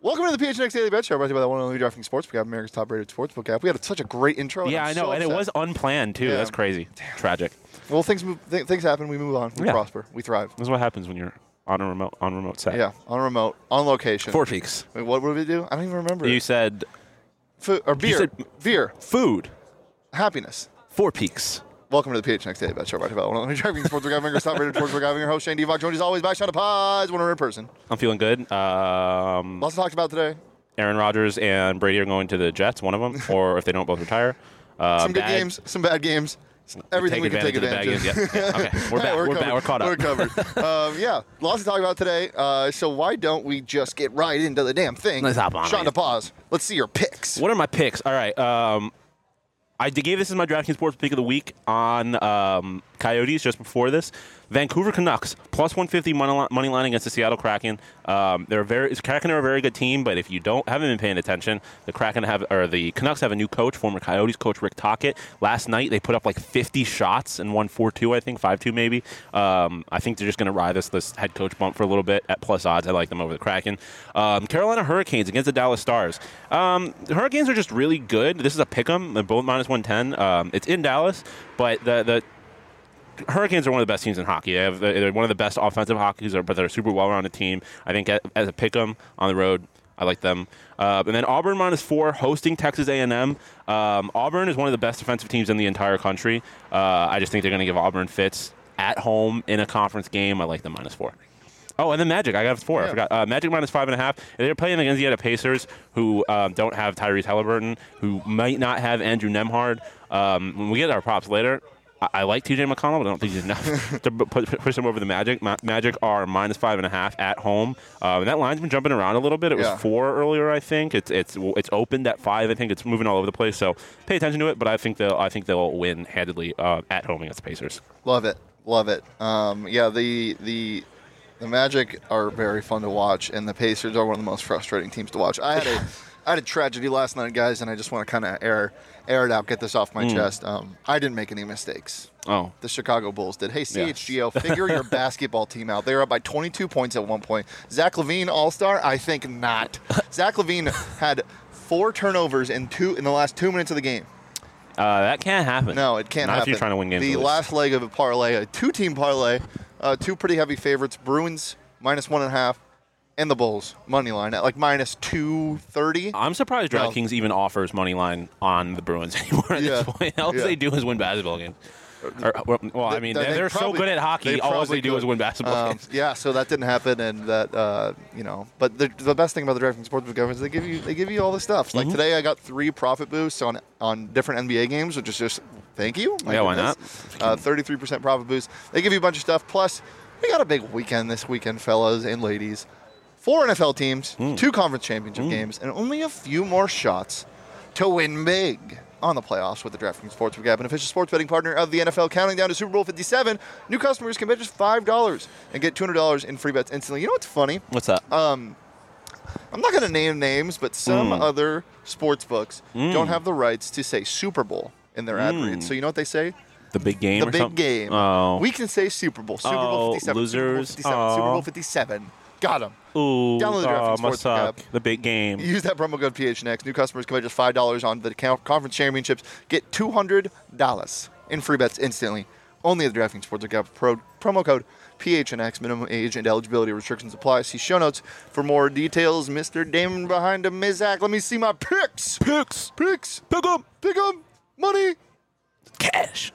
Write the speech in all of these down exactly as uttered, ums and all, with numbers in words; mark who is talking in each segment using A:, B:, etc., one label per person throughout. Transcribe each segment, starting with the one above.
A: Welcome to the P H N X Daily Bet Show, brought to you by the one and only DraftKings Sportsbook app, America's top-rated sportsbook app. We had such a great intro.
B: Yeah, I know,
A: so
B: and it was unplanned, too.
A: Yeah.
B: That's crazy. Damn. Tragic.
A: Well, things move, th- things happen. We move on. We
B: yeah.
A: prosper. We thrive.
B: This is what happens when you're on a remote on a remote set.
A: Yeah, on a remote, on location.
B: Four Peaks.
A: Wait, what did we do? I don't even remember.
B: You
A: it.
B: said...
A: Food, or beer.
B: said
A: beer.
B: Food.
A: Happiness.
B: Four Peaks.
A: Welcome to the P H N X Daily Bet Show, brought to you by the one and only DraftKings Sportsbook app, America's top-rated sportsbook app. I'm your host, Shane Devock, joined as always by Sean Paz, one hundred person.
B: I'm feeling good. Um,
A: Lots to talk about today.
B: Aaron Rodgers and Brady are going to the Jets, one of them, or if they don't both retire. Uh,
A: some good
B: bad,
A: games, some bad games. Everything we can take advantage of.
B: Yeah. Yeah. Okay, we're back.
A: we're,
B: we're,
A: covered.
B: back. We're caught up.
A: We're covered. um, yeah, lots to talk about today. Uh, so why don't we just get right into the damn thing?
B: Let's hop on
A: Sean
B: it.
A: Paz, let's see your picks.
B: What are my picks? All right. Um, I gave this as my DraftKings Sports Pick of the Week on um, Coyotes just before this. Vancouver Canucks, plus one fifty money line, money line against the Seattle Kraken. Um, they're a very, Kraken are a very good team, but if you don't haven't been paying attention, the Kraken have or the Canucks have a new coach, former Coyotes coach Rick Tocchet. Last night they put up like fifty shots and won four two, I think, five two maybe. Um, I think they're just going to ride this this head coach bump for a little bit at plus odds. I like them over the Kraken. Um, Carolina Hurricanes against the Dallas Stars. Um, the Hurricanes are just really good. This is a pick 'em. They're both minus one ten. Um, it's in Dallas, but the the Hurricanes are one of the best teams in hockey. They have, they're one of the best offensive hockeys, but they're a super well-rounded team. I think as a pick 'em on the road, I like them. Uh, and then Auburn minus four, hosting Texas A and M. Um, Auburn is one of the best defensive teams in the entire country. Uh, I just think they're going to give Auburn fits at home in a conference game. I like them minus four. Oh, and then Magic. I got four. Yeah. I forgot. Uh, Magic minus five and a half. They're playing against the Pacers, who um, don't have Tyrese Halliburton, who might not have Andrew Nembhard. Um, when we get our props later, I, I like T J McConnell, but I don't think he's enough to push, push him over the Magic. Ma- Magic are minus five and a half at home. Um, and that line's been jumping around a little bit. It was
A: yeah.
B: four earlier, I think. It's it's it's opened at five. I think it's moving all over the place. So pay attention to it. But I think they'll I think they'll win handedly uh, at home against the Pacers.
A: Love it, love it. Um, yeah, the the. The Magic are very fun to watch, and the Pacers are one of the most frustrating teams to watch. I had a, I had a tragedy last night, guys, and I just want to kind of air, air it out, get this off my mm. chest. Um, I didn't make any mistakes.
B: Oh,
A: the Chicago Bulls did. Hey, C H G O,
B: yeah.
A: figure your basketball team out. They were up by twenty-two points at one point. Zach LaVine, All-Star? I think not. Zach LaVine had four turnovers in two in the last two minutes of the game.
B: Uh, that can't happen.
A: No, it can't
B: Not
A: happen.
B: if you're trying to win games.
A: The last leg of a parlay, a two-team parlay, uh, two pretty heavy favorites, Bruins minus one and a half, and the Bulls money line at like minus two thirty.
B: I'm surprised DraftKings no. even offers money line on the Bruins anymore at yeah. this point. All yeah. they do is win basketball games. Or, well, I mean, they're, they're probably, so good at hockey. They all they do could. is win basketball um, games.
A: Yeah, so that didn't happen, and that uh, you know. But the, the best thing about the DraftKings Sportsbook is they give you they give you all the stuff. Mm-hmm. Like today, I got three profit boosts on on different N B A games, which is just thank you.
B: My yeah, goodness.
A: Why not? Uh, thirty-three percent profit boost. They give you a bunch of stuff. Plus, we got a big weekend this weekend, fellas and ladies. Four N F L teams, mm. two conference championship mm. games, and only a few more shots to win big on the playoffs with the DraftKings Sportsbook app, an official sports betting partner of the N F L. Counting down to Super Bowl fifty-seven, new customers can bet just five dollars and get two hundred dollars in free bets instantly. You know what's funny?
B: What's that?
A: Um, I'm not going to name names, but some mm. other sports books mm. don't have the rights to say Super Bowl in their ad
B: mm.
A: reads. So you know what they say?
B: The big game
A: The
B: or
A: big
B: something?
A: game.
B: Oh.
A: We can say Super Bowl. Super
B: oh,
A: Bowl fifty-seven.
B: Losers.
A: Super Bowl fifty-seven.
B: Oh.
A: Super Bowl fifty-seven. Got them.
B: Ooh,
A: Download the DraftKings
B: oh, must
A: Sportsbook
B: suck.
A: app.
B: The big game.
A: Use that promo code P H N X. New customers can bet just five dollars on the conference championships. Get two hundred dollars in free bets instantly. Only at the DraftKings Sportsbook app. Pro, promo code P H N X. Minimum age and eligibility restrictions apply. See show notes for more details. Mister Damon behind him, Mizak. Let me see my picks.
B: Picks.
A: Picks.
B: Pick 'em.
A: Pick 'em. Money.
B: Cash.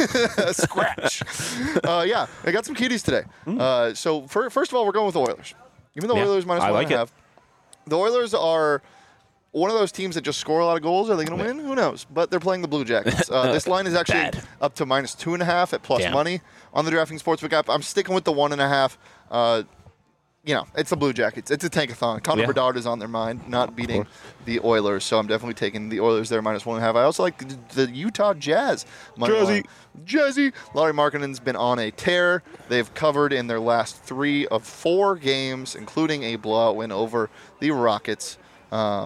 A: Scratch. uh, yeah, I got some cuties today. Mm. Uh, so for, first of all, we're going with the Oilers. Even though
B: yeah,
A: Oilers minus
B: I
A: one
B: like
A: and a half.
B: It.
A: The Oilers are one of those teams that just score a lot of goals. Are they going to win? Who knows? But they're playing the Blue Jackets. Uh, this line is actually
B: Bad.
A: up to minus two and a half at plus
B: Damn.
A: money on the DraftKings Sportsbook app. I'm sticking with the one and a half. Uh, you know, it's the Blue Jackets. It's a tankathon. Connor
B: yeah.
A: Bedard is on their mind, not beating the Oilers. So I'm definitely taking the Oilers there minus one and a half. I also like the, the Utah Jazz.
B: Jazzy.
A: Jazzy. Lauri Markkanen's been on a tear. They've covered in their last three of four games, including a blowout win over the Rockets. Um,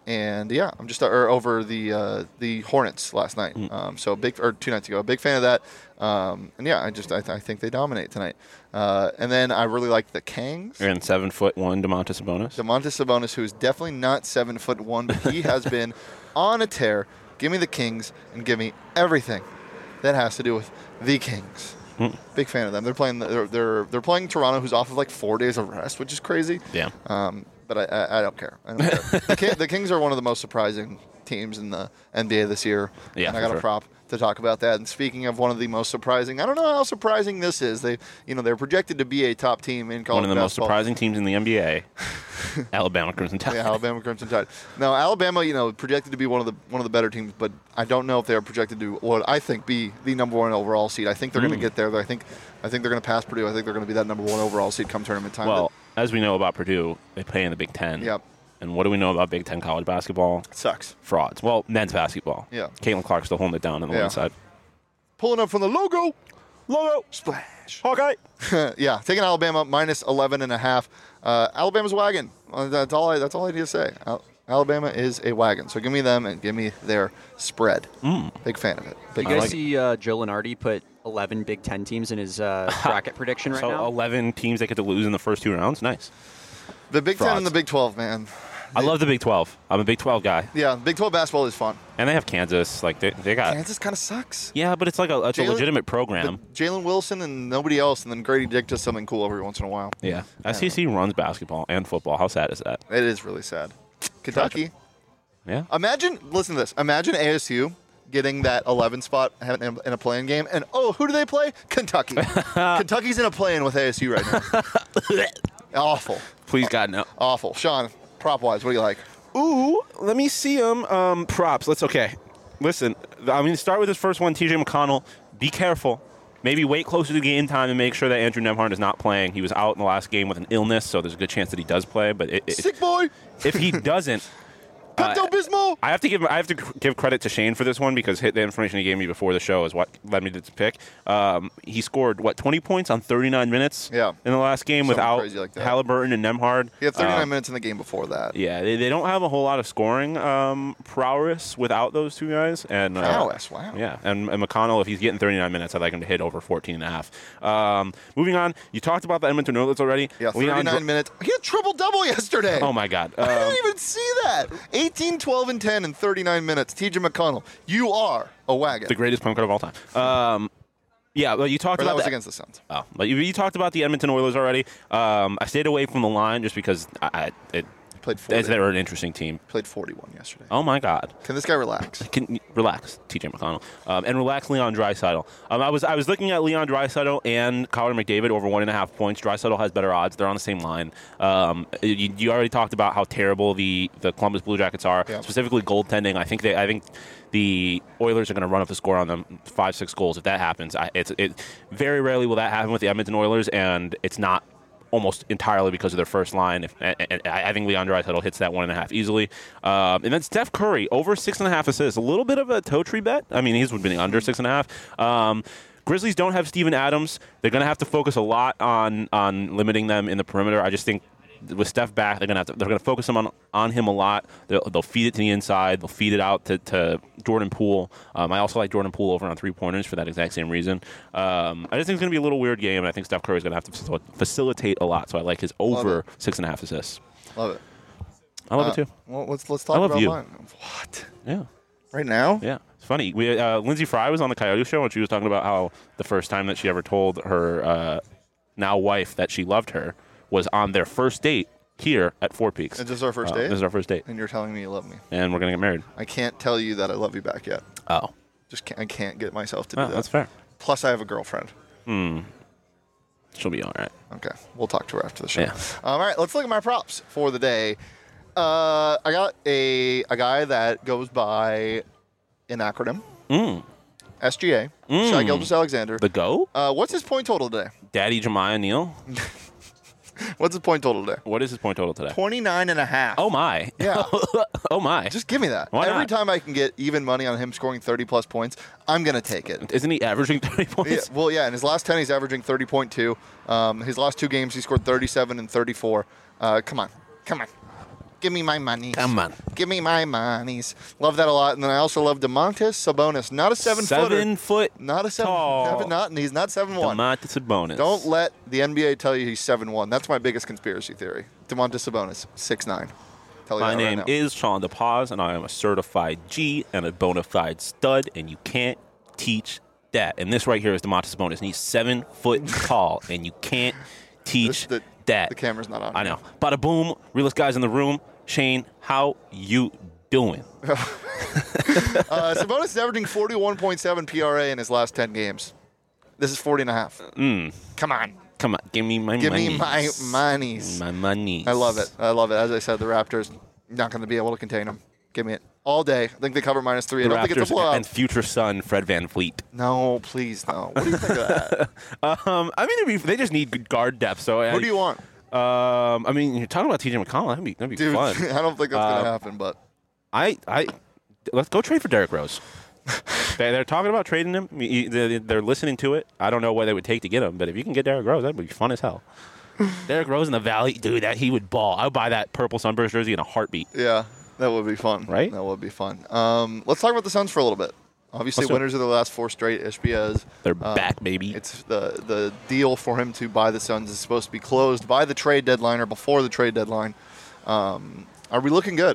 A: And yeah, I'm just or over the uh, the Hornets last night.
B: Mm.
A: Um, so big or two nights ago, a big fan of that. Um, and yeah, I just I, th- I think they dominate tonight. Uh, and then I really like the Kings.
B: And seven foot one Domantas Sabonis.
A: Domantas Sabonis, who is definitely not seven foot one, but he has been on a tear. Give me the Kings and give me everything that has to do with the Kings.
B: Mm.
A: Big fan of them. They're playing they're they're, they're playing Toronto, who's off of like four days of rest, which is crazy.
B: Yeah.
A: Um, but I, I, I don't care. I don't care. the, King, the Kings are one of the most surprising teams in the N B A this year.
B: Yeah,
A: and I
B: for
A: got
B: sure.
A: a prop to talk about that. And speaking of one of the most surprising, I don't know how surprising this is. They, you know, they're projected to be a top team in college
B: One of the most
A: basketball.
B: surprising teams in the N B A. Alabama Crimson Tide.
A: Yeah, Alabama Crimson Tide. Now, Alabama, you know, projected to be one of the one of the better teams, but I don't know if they're projected to what I think be the number one overall seed. I think they're going
B: Mm.
A: to get there. I think I think they're going to pass Purdue. I think they're going to be that number one overall seed come tournament time.
B: Well, as we know about Purdue, they play in the Big Ten.
A: But, yep,
B: And what do we know about Big Ten college basketball?
A: it sucks.
B: Frauds. Well, men's basketball.
A: Yeah.
B: Caitlin Clark's still holding it down on the
A: Yeah.
B: women's side.
A: Pulling up from the logo.
B: Logo.
A: Splash.
B: Hawkeye.
A: Yeah, taking Alabama minus eleven and a half. Uh, Alabama's a wagon. Uh, That's all. I, that's all I need to say. Al- Alabama is a wagon. So give me them and give me their spread.
B: Mm.
A: Big fan of it. Big
C: You
A: fan.
C: guys
B: like it.
C: see uh, Joe Lenardi put eleven Big Ten teams in his uh, bracket prediction right
B: So
C: now?
B: eleven teams they get to lose in the first two rounds. Nice.
A: The Big Ten
B: frauds.
A: and the Big twelve, man.
B: I love the Big twelve. I'm a Big twelve guy.
A: Yeah, Big twelve basketball is fun.
B: And they have Kansas. Like, they, they got.
A: Kansas kind of sucks.
B: Yeah, but it's like a, it's a
A: Jalen-
B: legitimate program.
A: But Jalen Wilson and nobody else, and then Grady Dick does something cool every once in a while.
B: Yeah. S E C runs basketball and football. How sad is that?
A: It is really sad. Kentucky.
B: Yeah.
A: Imagine, listen to this. Imagine A S U getting that eleven spot in in a playing game, and oh, who do they play? Kentucky. Kentucky's in a play-in with A S U right now. Awful.
B: Please, God, no.
A: Awful. Sean, prop-wise, what do you like?
B: Ooh, let me see them. Um, props. Let's, okay. Listen, I'm going to start with this first one, T J McConnell. Be careful. Maybe wait closer to game time and make sure that Andrew Nemhard is not playing. He was out in the last game with an illness, so there's a good chance that he does play. But it, it,
A: Sick boy.
B: if he doesn't,
A: Pepto Bismol.
B: I have to give I have to give credit to Shane for this one because hit the information he gave me before the show is what led me to this pick. Um, he scored what twenty points on thirty-nine minutes.
A: Yeah.
B: in the last game
A: Something
B: without
A: crazy like that.
B: Halliburton and Nemhard.
A: He had thirty-nine
B: Um,
A: minutes in the game before that.
B: Yeah, they, they don't have a whole lot of scoring um, prowess without those two guys. And uh,
A: Prowess, wow.
B: Yeah, and, and McConnell, if he's getting thirty-nine minutes, I'd like him to hit over fourteen and a half. Um, moving on, you talked about the Edmonton Oilers already.
A: Yeah,
B: Leon
A: thirty-nine
B: Dr-
A: minutes. He had triple-double yesterday.
B: Oh, my God.
A: I
B: Um,
A: didn't even see that. eighteen, twelve, and ten in thirty-nine minutes. T J McConnell, you are a wagon.
B: the greatest point guard of all time. Um, yeah, well, you talked
A: Or that
B: about
A: was
B: the-
A: against the Suns.
B: Oh, but you, you talked about the Edmonton Oilers already. Um, I stayed away from the line just because I, I, it,
A: Played forty.
B: they were an interesting team.
A: Played forty-one yesterday.
B: Oh my God!
A: Can this guy relax?
B: Can relax, T J McConnell, um, and relax Leon Draisaitl. Um, I was I was looking at Leon Draisaitl and Connor McDavid over one and a half points. Draisaitl has better odds. They're on the same line. Um, you, you already talked about how terrible the, the Columbus Blue Jackets are,
A: Yeah.
B: specifically goaltending. I think they I think the Oilers are going to run up the score on them five six goals if that happens. I, it's it very rarely will that happen with the Edmonton Oilers, and it's not almost entirely because of their first line. If, and, and I think Leon Draisaitl hits that one and a half easily. Um, and then Steph Curry, over six and a half assists. A little bit of a toe tree bet. I mean, he's been under six and a half. Um, Grizzlies don't have Steven Adams. They're going to have to focus a lot on on limiting them in the perimeter. I just think with Steph back, they're gonna have to, they're gonna focus him on, on him a lot. They'll, they'll feed it to the inside. They'll feed it out to, to Jordan Poole. Um, I also like Jordan Poole over on three pointers for that exact same reason. Um, I just think it's gonna be a little weird game, and I think Steph Curry's gonna have to facil- facilitate a lot. So I like his over six and a half assists.
A: Love it.
B: I love
A: Uh,
B: it too.
A: Well, let's let's talk
B: I love
A: about
B: you.
A: mine. What?
B: Yeah.
A: Right now?
B: Yeah, it's funny. We uh, Lindsay Fry was on the Coyote Show, and she was talking about how the first time that she ever told her uh, now wife that she loved her was on their first date here at Four Peaks.
A: Is this our first
B: Uh,
A: date?
B: This is our first date,
A: And you're telling me you love me.
B: and we're gonna get married.
A: I can't tell you that I love you back yet.
B: Oh,
A: Just can't, I can't get myself to do
B: oh
A: that.
B: that's fair.
A: Plus, I have a girlfriend.
B: She'll be all right.
A: Okay, we'll talk to her after the show.
B: Yeah.
A: All right, let's look at my props for the day. Uh, I got a a guy that goes by an acronym.
B: Mm.
A: S G A.
B: Mm.
A: Shai Gilgeous-Alexander.
B: The go,
A: Uh, what's his point total today?
B: Daddy Jemiah Neal.
A: What's his point total today?
B: What is his point total today?
A: twenty-nine and a half.
B: Oh my.
A: Yeah.
B: Oh my.
A: Just give me that.
B: Why
A: Every
B: not?
A: time I can get even money on him scoring thirty plus points, I'm going to take it.
B: Isn't he averaging thirty points?
A: Yeah, well, yeah, in his last ten, he's averaging thirty point two. Um, his last two games, he scored thirty-seven and thirty-four. Uh, come on. Come on. Give me my monies.
B: Come on.
A: Give me my monies. Love that a lot. And then I also love Domantas Sabonis. Not a seven-footer.
B: Seven foot
A: Not a seven.
B: tall.
A: Not, he's not seven one.
B: Domantas Sabonis.
A: Don't let the N B A tell you he's seven one. That's my biggest conspiracy theory. Domantas Sabonis, six nine. Tell you
B: My
A: that
B: name
A: right now.
B: is Sean DePaz, and I am a certified G and a bona fide stud, and you can't teach that. And this right here is Domantas Sabonis, and he's seven foot tall, and you can't teach
A: This- the-
B: that.
A: The camera's not on.
B: I know. Bada boom, realest guys in the room. Shane, how you doing?
A: Uh, Sabonis is averaging forty-one point seven P R A in his last ten games. This is forty and a half.
B: Mm.
A: Come on.
B: Come on, give me my
A: Give
B: money.
A: me my monies.
B: My money.
A: I love it. I love it. As I said, the Raptors not going to be able to contain them. Give me it all day. I think they cover minus three.
B: The
A: I don't think it's a
B: Raptors
A: blowout.
B: and future son Fred Van Fleet.
A: No, please no. What do you think of that?
B: Um, I mean, it'd be, they just need good guard depth. So
A: Who do you want?
B: Um, I mean, you're talking about T J McConnell. That'd be that'd be
A: Dude,
B: fun.
A: I don't think that's going
B: Uh,
A: to happen, but
B: I, I, let's go trade for Derrick Rose. they, they're talking about trading him. He- They're they're listening to it. I don't know what they would take to get him, but if you can get Derrick Rose, that'd be fun as hell. Derrick Rose in the Valley, dude, that he would ball. I would buy that purple Sunburst jersey in a heartbeat.
A: yeah, that would be fun.
B: Right?
A: That would be fun. Um, let's talk about the Suns for a little bit. Obviously,
B: Let's do it.
A: winners of the last four straight. Ishbiaz.
B: They're
A: Um,
B: back, baby.
A: It's the the deal for him to buy the Suns is supposed to be closed by the trade deadline or before the trade deadline. Um, are we looking good?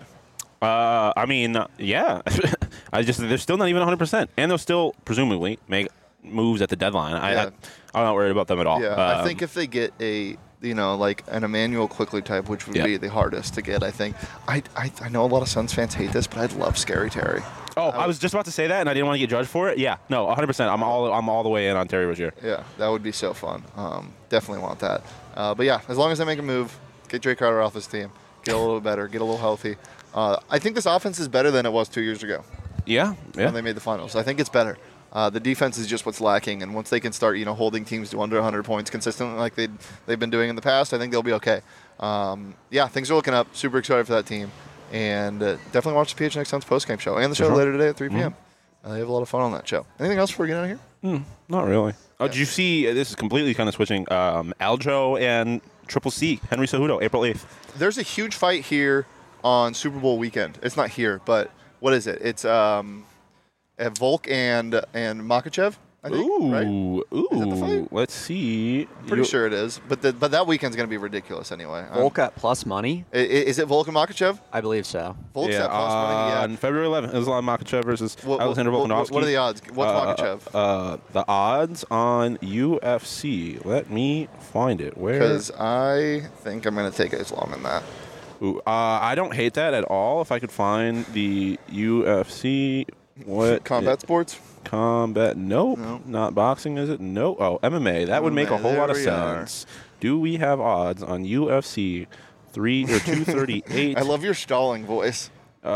B: Uh, I mean, uh, yeah. I just they're still not even one hundred percent, and they'll still presumably make moves at the deadline. I,
A: Yeah.
B: I I'm not worried about them at all.
A: Yeah, I
B: Um,
A: think if they get a you know like an Emmanuel Quickly type, which would
B: Yeah.
A: be the hardest to get, I think. I, I I know a lot of Suns fans hate this, but I'd love Scary Terry.
B: Oh, I was just about to say that, and I didn't want to get judged for it. Yeah, no, one hundred percent. I'm all I'm all the way in on Terry Rozier.
A: Yeah, that would be so fun. Um, definitely want that. Uh, but yeah, as long as they make a move, get Jay Crowder off this team, get a little better, get a little healthy. Uh, I think this offense is better than it was two years ago
B: Yeah, yeah.
A: when they made the finals. I think it's better. Uh, the defense is just what's lacking, and once they can start, you know, holding teams to under one hundred points consistently like they they've been doing in the past, I think they'll be okay. Um, yeah, things are looking up. Super excited for that team, and uh, definitely watch the P H N X Suns postgame show and the show
B: sure.
A: later today at three p.m.
B: Mm-hmm.
A: Uh, they have a lot of fun on that show. Anything else before we get out of here?
B: Not really. Oh, did you see? Uh, this is completely kind of switching. Um, Aljo and Triple C, Henry Cejudo, April eighth.
A: There's a huge fight here on Super Bowl weekend. It's not here, but what is it? It's um, at Volk and and Makachev, I think.
B: Ooh,
A: Right?
B: ooh.
A: Is that the fight?
B: Let's see.
A: Pretty
B: You-
A: sure it is. But the, but that weekend's going to be ridiculous anyway. Um,
C: Volk at plus money?
A: i- i- is it Volk and Makachev?
C: I believe so.
A: Volk's
B: Yeah,
A: at plus money, yeah.
B: on February eleventh, Islam Makhachev versus
A: What- what-
B: Alexander
A: what-
B: Volkanovski.
A: what are the odds? What's
B: Uh,
A: Makhachev?
B: Uh, the odds on U F C. Let me find it. Where?
A: Because I think I'm going to take Islam in that.
B: Ooh, uh, I don't hate that at all. If I could find the U F C, what
A: Combat sports?
B: combat? Nope,
A: No.
B: not boxing. Is it? No. Oh, M M A. That would make a
A: M M A,
B: whole lot of
A: there we are.
B: sense. Do we have odds on U F C three or two thirty eight?
A: I love your stalling voice.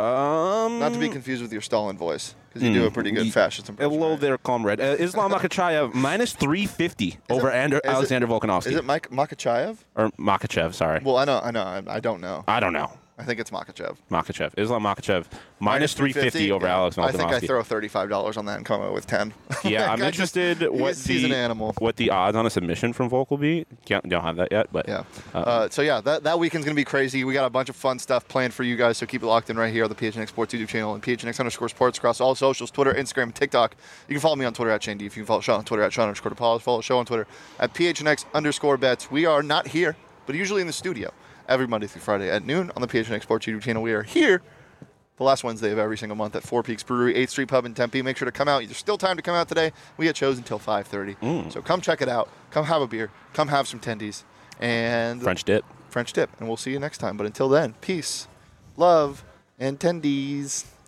B: Um,
A: Not to be confused with your Stalin voice, because you do a pretty good
B: Ye-
A: fascist impression.
B: Hello
A: right?
B: there, comrade. Uh, Islam Makhachev minus three fifty over
A: it-
B: Ander,
A: is it-
B: Alexander Volkanovski.
A: Is it Mike Makachev?
B: or Makhachev? Sorry,
A: Well, I know, I know, I, I don't know.
B: I don't know.
A: I think it's Makachev.
B: Makhachev, Islam Makhachev minus three fifty over
A: yeah.
B: Alex
A: I think I
B: Volkanovski.
A: throw thirty-five dollars on that and come out with ten.
B: Yeah, I'm
A: I just-
B: interested what
A: he's, he's
B: the
A: an animal.
B: what the odds on a submission from Volk will be. Can't, don't have that yet, but
A: Yeah.
B: uh,
A: Uh, so yeah, that, that weekend's gonna be crazy. We got a bunch of fun stuff planned for you guys, so keep it locked in right here on the P H N X Sports YouTube channel and P H N X underscore sports across all socials, Twitter, Instagram, and TikTok. You can follow me on Twitter at Shane D. If you can follow Sean on Twitter at Sean underscore DePaul. Follow the show on Twitter at P H N X underscore bets. We are not here, but usually in the studio every Monday through Friday at noon on the P H N X Sports YouTube channel. We are here the last Wednesday of every single month at Four Peaks Brewery, eighth Street Pub in Tempe. Make sure to come out. There's still time to come out today. We get shows until five thirty.
B: Mm.
A: So come check it out. Come have a beer. Come have some tendies. And
B: French dip.
A: French dip. And we'll see you next time. But until then, peace, love, and tendies.